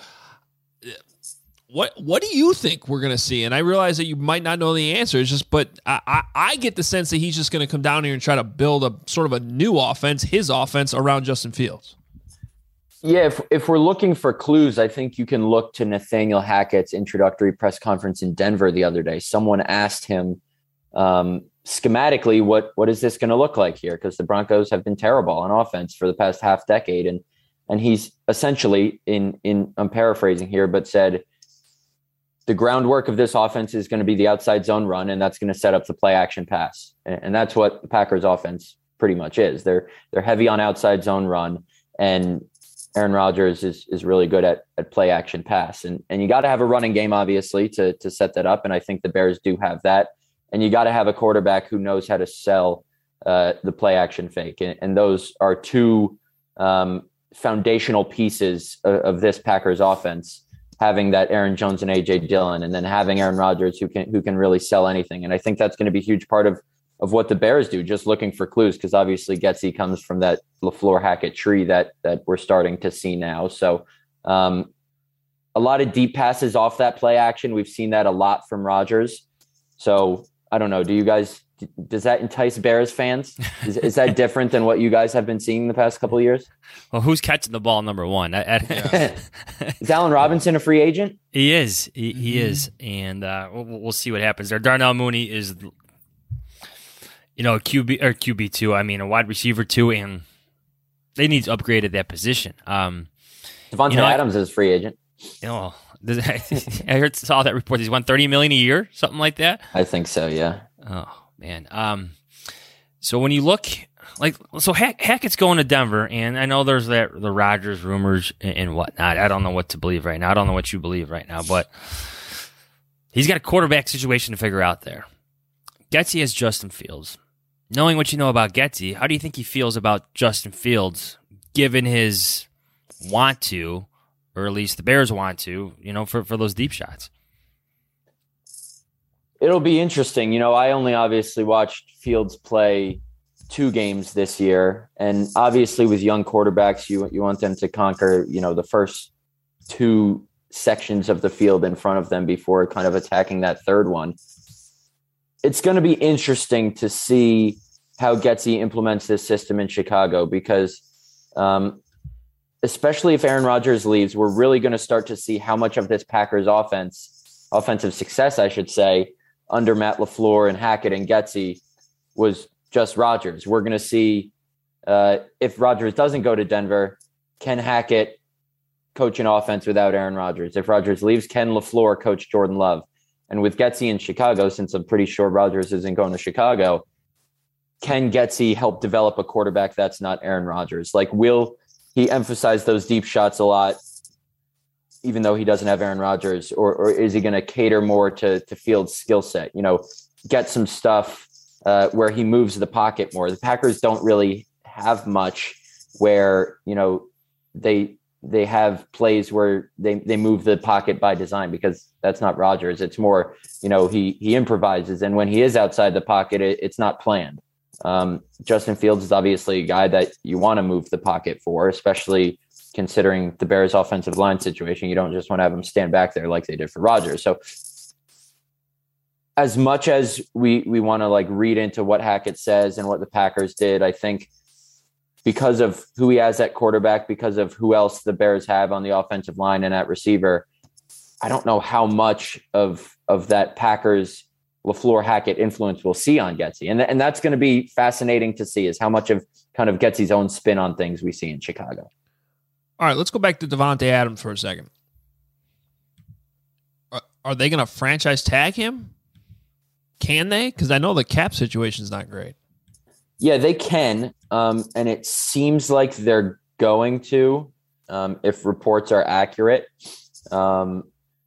What what do you think we're going to see? And I realize that you might not know the answer. It's just, but I, I, I get the sense that he's just going to come down here and try to build a sort of a new offense, his offense, around Justin Fields. Yeah, if if we're looking for clues, I think you can look to Nathaniel Hackett's introductory press conference in Denver the other day. Someone asked him um, schematically, what what is this going to look like here? Because the Broncos have been terrible on offense for the past half decade, and and he's essentially in in I'm paraphrasing here, but said, the groundwork of this offense is going to be the outside zone run, and that's going to set up the play action pass. And that's what the Packers offense pretty much is. They're they're heavy on outside zone run, and Aaron Rodgers is is really good at at play action pass. And and you got to have a running game, obviously, to to set that up. And I think the Bears do have that. And you got to have a quarterback who knows how to sell uh, the play action fake. And, and those are two um, foundational pieces of, of this Packers offense, having that Aaron Jones and A J Dillon, and then having Aaron Rodgers who can who can really sell anything. And I think that's going to be a huge part of of what the Bears do, just looking for clues, because obviously Getsy comes from that LaFleur Hackett tree that that we're starting to see now. So um, a lot of deep passes off that play action. We've seen that a lot from Rodgers. So I don't know. Do you guys, does that entice Bears fans? Is, is that different than what you guys have been seeing the past couple of years? Well, who's catching the ball, number one? I, I, is Allen Robinson a free agent? He is. He, he mm-hmm. is. And uh, we'll, we'll see what happens there. Darnell Mooney is, you know, Q B or Q B two. I mean, a wide receiver two, and they need to upgrade at that position. Um, Davante you know, Adams is a free agent. You know, I heard saw that report. He's won thirty million a year, something like that. I think so. Yeah. Oh man. Um. So when you look, like, so Hack, Hackett's going to Denver, and I know there's that the Rodgers rumors and, and whatnot. I don't know what to believe right now. I don't know what you believe right now, but he's got a quarterback situation to figure out there. Getsy has Justin Fields. Knowing what you know about Getsy, how do you think he feels about Justin Fields, given his want to, or at least the Bears want to, you know, for, for those deep shots? It'll be interesting. You know, I only obviously watched Fields play two games this year. And obviously with young quarterbacks, you you want them to conquer, you know, the first two sections of the field in front of them before kind of attacking that third one. It's going to be interesting to see how Getsy implements this system in Chicago, because um, especially if Aaron Rodgers leaves, we're really going to start to see how much of this Packers offense, offensive success, I should say, under Matt LaFleur and Hackett and Getsy was just Rodgers. We're going to see uh, if Rodgers doesn't go to Denver, Ken Hackett coach an offense without Aaron Rodgers. If Rodgers leaves, Ken LaFleur coach Jordan Love. And with Getsy in Chicago, since I'm pretty sure Rodgers isn't going to Chicago, can Getsy help develop a quarterback that's not Aaron Rodgers? Like, will he emphasize those deep shots a lot, even though he doesn't have Aaron Rodgers? Or, or is he going to cater more to, to Fields' skill set? You know, get some stuff uh, where he moves the pocket more. The Packers don't really have much where, you know, they they have plays where they, they move the pocket by design, because that's not Rodgers. It's more, you know, he he improvises. And when he is outside the pocket, it, it's not planned. Um, Justin Fields is obviously a guy that you want to move the pocket for, especially considering the Bears' offensive line situation. You don't just want to have him stand back there like they did for Rodgers. So as much as we, we want to like read into what Hackett says and what the Packers did, I think because of who he has at quarterback, because of who else the Bears have on the offensive line and at receiver, I don't know how much of, of that Packers LaFleur Hackett influence we'll see on Getsy. And, th- and that's going to be fascinating to see, is how much of kind of Getsy's own spin on things we see in Chicago. All right, let's go back to Davante Adams for a second. Are, are they going to franchise tag him? Can they? Because I know the cap situation is not great. Yeah, they can. Um, and it seems like they're going to, um, if reports are accurate. Um,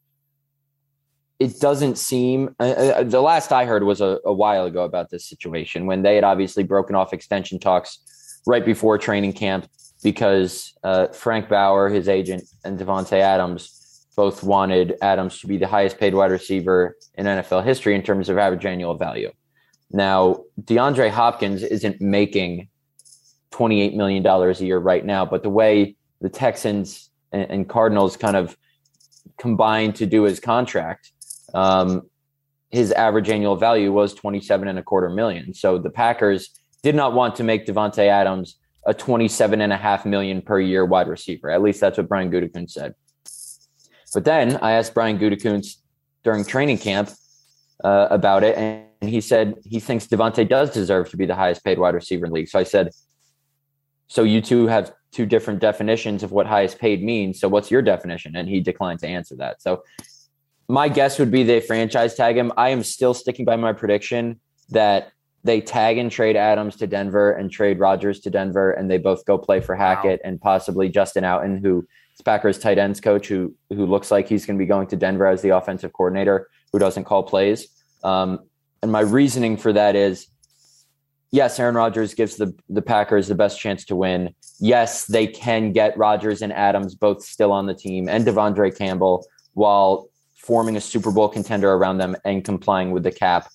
it doesn't seem uh, uh, the last I heard was a, a while ago about this situation, when they had obviously broken off extension talks right before training camp, because uh, Frank Bauer, his agent, and Davante Adams both wanted Adams to be the highest paid wide receiver in N F L history in terms of average annual value. Now, DeAndre Hopkins isn't making twenty-eight million dollars a year right now, but the way the Texans and, and Cardinals kind of combined to do his contract, um, his average annual value was twenty-seven and a quarter million. So the Packers did not want to make Davante Adams a twenty-seven and a half million per year wide receiver. At least that's what Brian Gutekunst said. But then I asked Brian Gutekunst during training camp uh, about it, and he said he thinks Davante does deserve to be the highest paid wide receiver in the league. So I said, so you two have two different definitions of what highest paid means. So what's your definition? And he declined to answer that. So my guess would be they franchise tag him. I am still sticking by my prediction that they tag and trade Adams to Denver and trade Rodgers to Denver, and they both go play for Hackett wow. and possibly Justin Outen, who is Packers tight ends coach, who who looks like he's going to be going to Denver as the offensive coordinator, who doesn't call plays. Um, and my reasoning for that is, yes, Aaron Rodgers gives the, the Packers the best chance to win. Yes, they can get Rodgers and Adams both still on the team, and Devondre Campbell, while forming a Super Bowl contender around them and complying with the cap.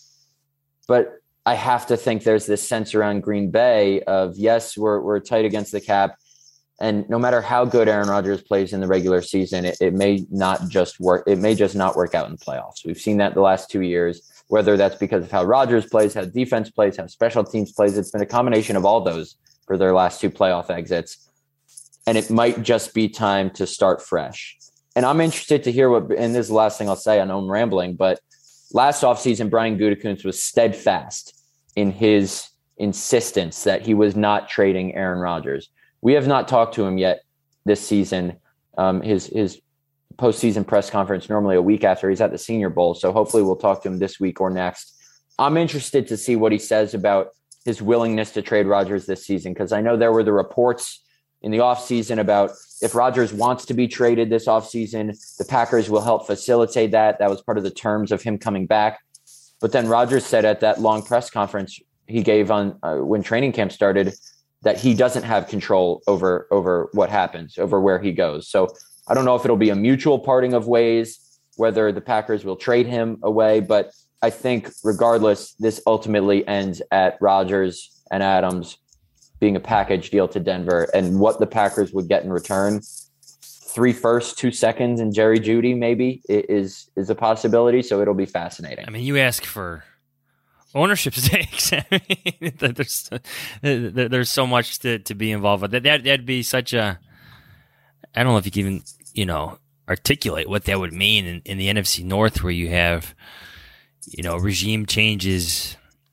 But I have to think there's this sense around Green Bay of, yes, we're we're tight against the cap, and no matter how good Aaron Rodgers plays in the regular season, it, it may not just work. It may just not work out in the playoffs. We've seen that the last two years, whether that's because of how Rodgers plays, how defense plays, how special teams plays. It's been a combination of all those for their last two playoff exits. And it might just be time to start fresh. And I'm interested to hear what, and this is the last thing I'll say, I know I'm rambling, but last offseason, Brian Gutekunst was steadfast in his insistence that he was not trading Aaron Rodgers. We have not talked to him yet this season. Um, his his postseason press conference normally a week after he's at the Senior Bowl, so hopefully we'll talk to him this week or next. I'm interested to see what he says about his willingness to trade Rodgers this season, because I know there were the reports in the offseason about if Rodgers wants to be traded this offseason, the Packers will help facilitate that. That was part of the terms of him coming back. But then Rodgers said at that long press conference he gave on uh, when training camp started that he doesn't have control over over what happens, over where he goes. So I don't know if it'll be a mutual parting of ways, whether the Packers will trade him away, but I think regardless, this ultimately ends at Rodgers and Adams being a package deal to Denver, and what the Packers would get in return. Three firsts, two seconds, and Jerry Jeudy maybe is is a possibility. So it'll be fascinating. I mean, you ask for ownership stakes. I mean, there's there's so much to, to be involved with. That that'd be such a. I don't know if you can even you know articulate what that would mean in, in the N F C North, where you have you know regime changes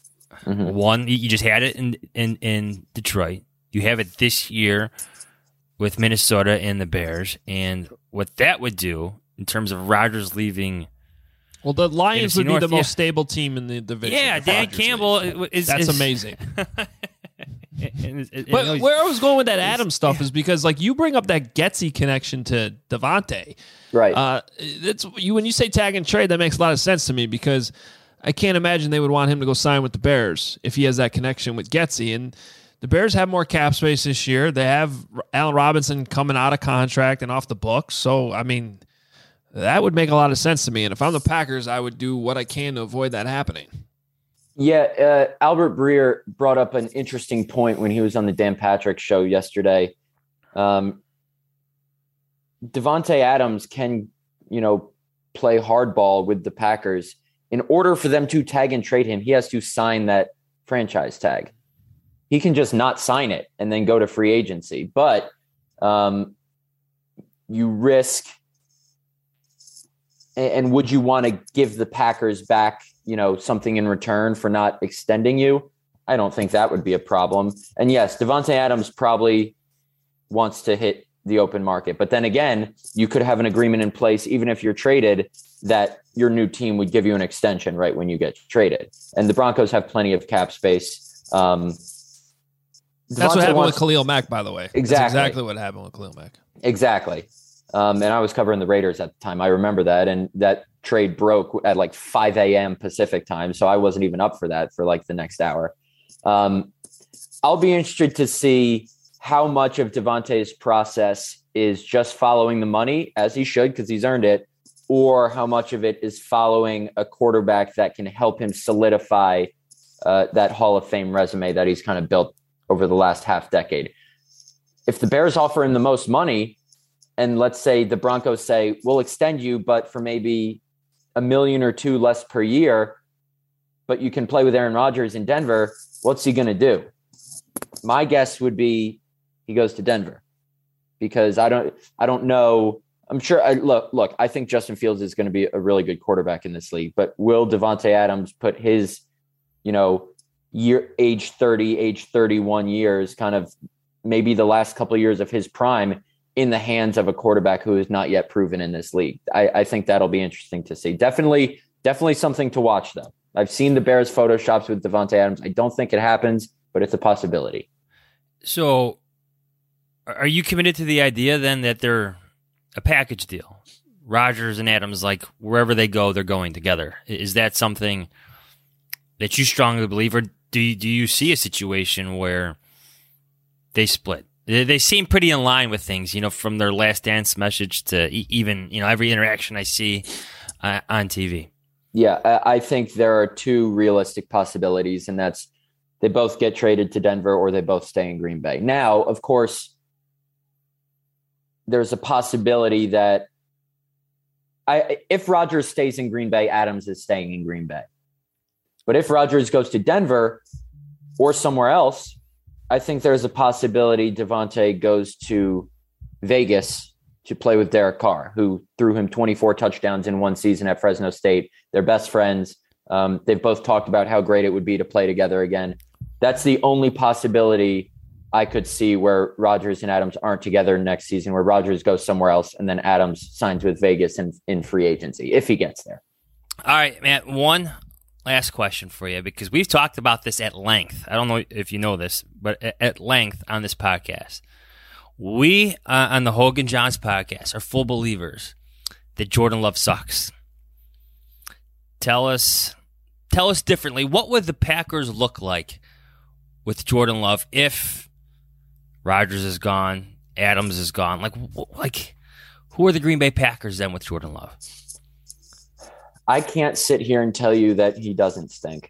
Mm-hmm. One, you just had it in, in, in Detroit. You have it this year with Minnesota and the Bears. And what that would do in terms of Rodgers leaving. Well, the Lions would be North, the most yeah. stable team in the division. Yeah, Dan Campbell is. That's is, amazing. and, and, and, but and where I was going with that Adams stuff is because, like, you bring up that Getsy connection to Davante, right? Uh, it's you when you say tag and trade, that makes a lot of sense to me because I can't imagine they would want him to go sign with the Bears if he has that connection with Getsy. And the Bears have more cap space this year. They have Allen Robinson coming out of contract and off the books. So, I mean, that would make a lot of sense to me. And if I'm the Packers, I would do what I can to avoid that happening. Yeah, uh, Albert Breer brought up an interesting point when he was on the Dan Patrick show yesterday. Um, Davante Adams can, you know, play hardball with the Packers. In order for them to tag and trade him, he has to sign that franchise tag. He can just not sign it and then go to free agency. But um, you risk, and, and would you want to give the Packers back, you know, something in return for not extending you? I don't think that would be a problem. And yes, Davante Adams probably wants to hit the open market. But then again, you could have an agreement in place, even if you're traded, that your new team would give you an extension right when you get traded. And the Broncos have plenty of cap space. Um, That's Devontae what happened wants, with Khalil Mack, by the way. Exactly. That's exactly what happened with Khalil Mack. Exactly. Um, and I was covering the Raiders at the time. I remember that. And that trade broke at like five a.m. Pacific time. So I wasn't even up for that for like the next hour. Um, I'll be interested to see how much of Devontae's process is just following the money, as he should, because he's earned it, or how much of it is following a quarterback that can help him solidify uh, that Hall of Fame resume that he's kind of built over the last half decade. If the Bears offer him the most money, and let's say the Broncos say, we'll extend you, but for maybe a million or two less per year, but you can play with Aaron Rodgers in Denver, what's he going to do? My guess would be he goes to Denver, because I don't, I don't know. I'm sure. I, look, look. I think Justin Fields is going to be a really good quarterback in this league. But will Davante Adams put his, you know, year age thirty, age thirty-one years, kind of maybe the last couple of years of his prime, in the hands of a quarterback who is not yet proven in this league? I, I think that'll be interesting to see. Definitely, definitely something to watch, though. I've seen the Bears photoshops with Davante Adams. I don't think it happens, but it's a possibility. So, are you committed to the idea then that they're a package deal? Rodgers and Adams, like wherever they go, they're going together. Is that something that you strongly believe, or do you, do you see a situation where they split? They seem pretty in line with things, you know, from their last dance message to even, you know, every interaction I see uh, on T V. Yeah, I think there are two realistic possibilities, and that's they both get traded to Denver or they both stay in Green Bay. Now, of course, there's a possibility that I, if Rodgers stays in Green Bay, Adams is staying in Green Bay. But if Rodgers goes to Denver or somewhere else, I think there's a possibility Davante goes to Vegas to play with Derek Carr, who threw him twenty-four touchdowns in one season at Fresno State. They're best friends. Um, they've both talked about how great it would be to play together again. That's the only possibility I could see where Rodgers and Adams aren't together next season, where Rodgers goes somewhere else and then Adams signs with Vegas in, in free agency, if he gets there. All right, Matt, one last question for you, because we've talked about this at length. I don't know if you know this, but at length on this podcast. We, uh, on the Hogan Johns podcast, are full believers that Jordan Love sucks. Tell us, tell us differently. What would the Packers look like with Jordan Love if Rodgers is gone, Adams is gone? Like, like, who are the Green Bay Packers then with Jordan Love? I can't sit here and tell you that he doesn't stink.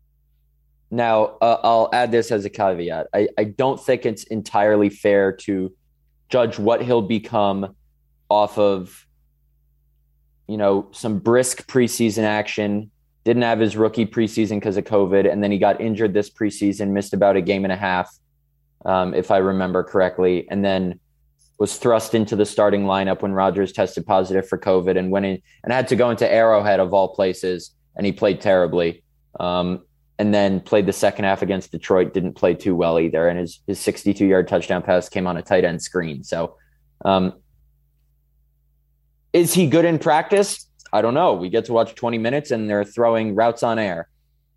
Now, uh, I'll add this as a caveat. I, I don't think it's entirely fair to judge what he'll become off of, you know, some brisk preseason action. Didn't have his rookie preseason because of COVID, and then he got injured this preseason, missed about a game and a half, um, if I remember correctly, and then was thrust into the starting lineup when Rodgers tested positive for COVID and went in and had to go into Arrowhead of all places, and he played terribly. Um, and then played the second half against Detroit, didn't play too well either. And his, his sixty-two-yard touchdown pass came on a tight end screen. So um, is he good in practice? I don't know. We get to watch twenty minutes and they're throwing routes on air.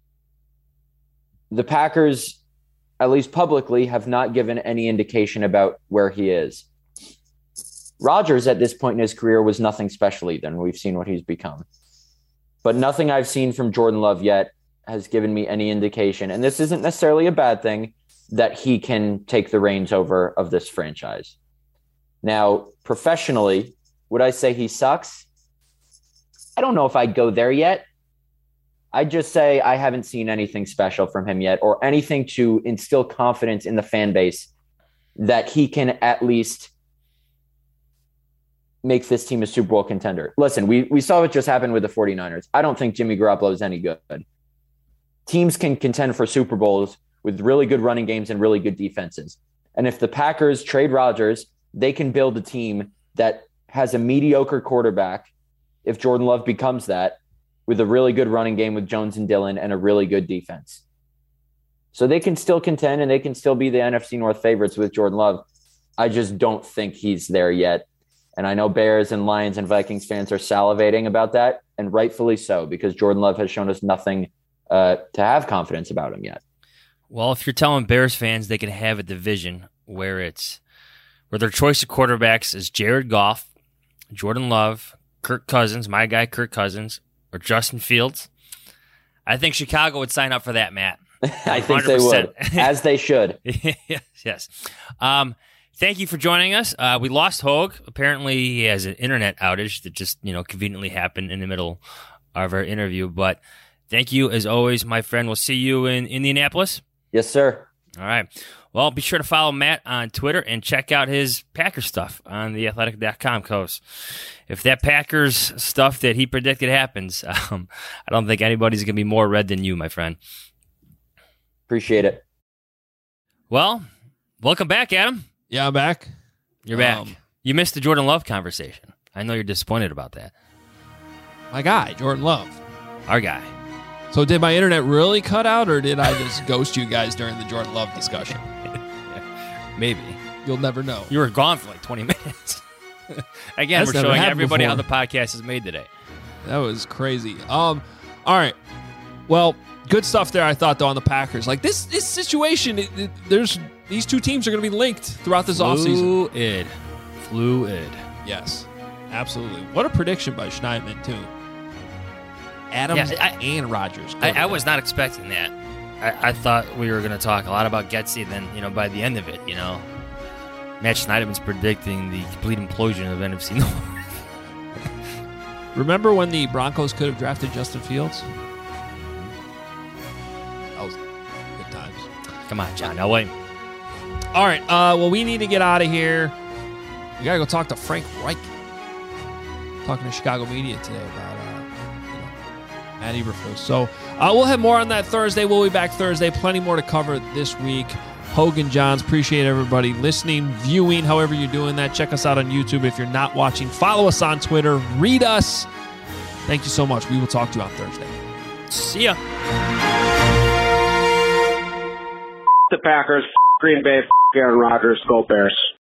The Packers, at least publicly, have not given any indication about where he is. Rodgers at this point in his career was nothing special either, and we've seen what he's become. But nothing I've seen from Jordan Love yet has given me any indication, and this isn't necessarily a bad thing, that he can take the reins over of this franchise. Now, professionally, would I say he sucks? I don't know if I'd go there yet. I'd just say I haven't seen anything special from him yet, or anything to instill confidence in the fan base that he can at least make this team a Super Bowl contender. Listen, we, we saw what just happened with the 49ers. I don't think Jimmy Garoppolo is any good. Teams can contend for Super Bowls with really good running games and really good defenses. And if the Packers trade Rodgers, they can build a team that has a mediocre quarterback, if Jordan Love becomes that, with a really good running game with Jones and Dillon and a really good defense. So they can still contend and they can still be the N F C North favorites with Jordan Love. I just don't think he's there yet. And I know Bears and Lions and Vikings fans are salivating about that, and rightfully so, because Jordan Love has shown us nothing uh, to have confidence about him yet. Well, if you're telling Bears fans they can have a division where it's where their choice of quarterbacks is Jared Goff, Jordan Love, Kirk Cousins, my guy Kirk Cousins, or Justin Fields, I think Chicago would sign up for that, Matt. I think they would, as they should. yes, yes. Um, thank you for joining us. Uh, we lost Hogue. Apparently, he has an internet outage that just, you know, conveniently happened in the middle of our interview. But thank you, as always, my friend. We'll see you in Indianapolis. Yes, sir. All right. Well, be sure to follow Matt on Twitter and check out his Packers stuff on the athletic dot com, Coast. If that Packers stuff that he predicted happens, um, I don't think anybody's going to be more red than you, my friend. Appreciate it. Well, welcome back, Adam. Yeah, I'm back. You're back. Um, you missed the Jordan Love conversation. I know you're disappointed about that. My guy, Jordan Love. Our guy. So did my internet really cut out, or did I just ghost you guys during the Jordan Love discussion? Maybe. You'll never know. You were gone for like twenty minutes. Again, That's we're showing everybody before. how the podcast is made today. That was crazy. Um, all right. Well, good stuff there, I thought, though, on the Packers. Like, this this situation, it, it, there's these two teams are going to be linked throughout this offseason. Fluid. Fluid. Yes, absolutely. What a prediction by Schneidman, too. Adams yeah, I, and Rodgers. I, I was not expecting that. I, I thought we were going to talk a lot about Getsy, and then, you know, by the end of it, you know, Matt Schneidman's predicting the complete implosion of N F C North. Remember when the Broncos could have drafted Justin Fields? That was good times. Come on, John. No way. All right. Uh, well, we need to get out of here. We got to go talk to Frank Reich. Talking to Chicago media today about uh, you know, Matt Eberflus. So uh, we'll have more on that Thursday. We'll be back Thursday. Plenty more to cover this week. Hogan Johns, appreciate everybody listening, viewing, however you're doing that. Check us out on YouTube if you're not watching. Follow us on Twitter. Read us. Thank you so much. We will talk to you on Thursday. See ya. The Packers, Green Bay, Aaron Rodgers, go Bears.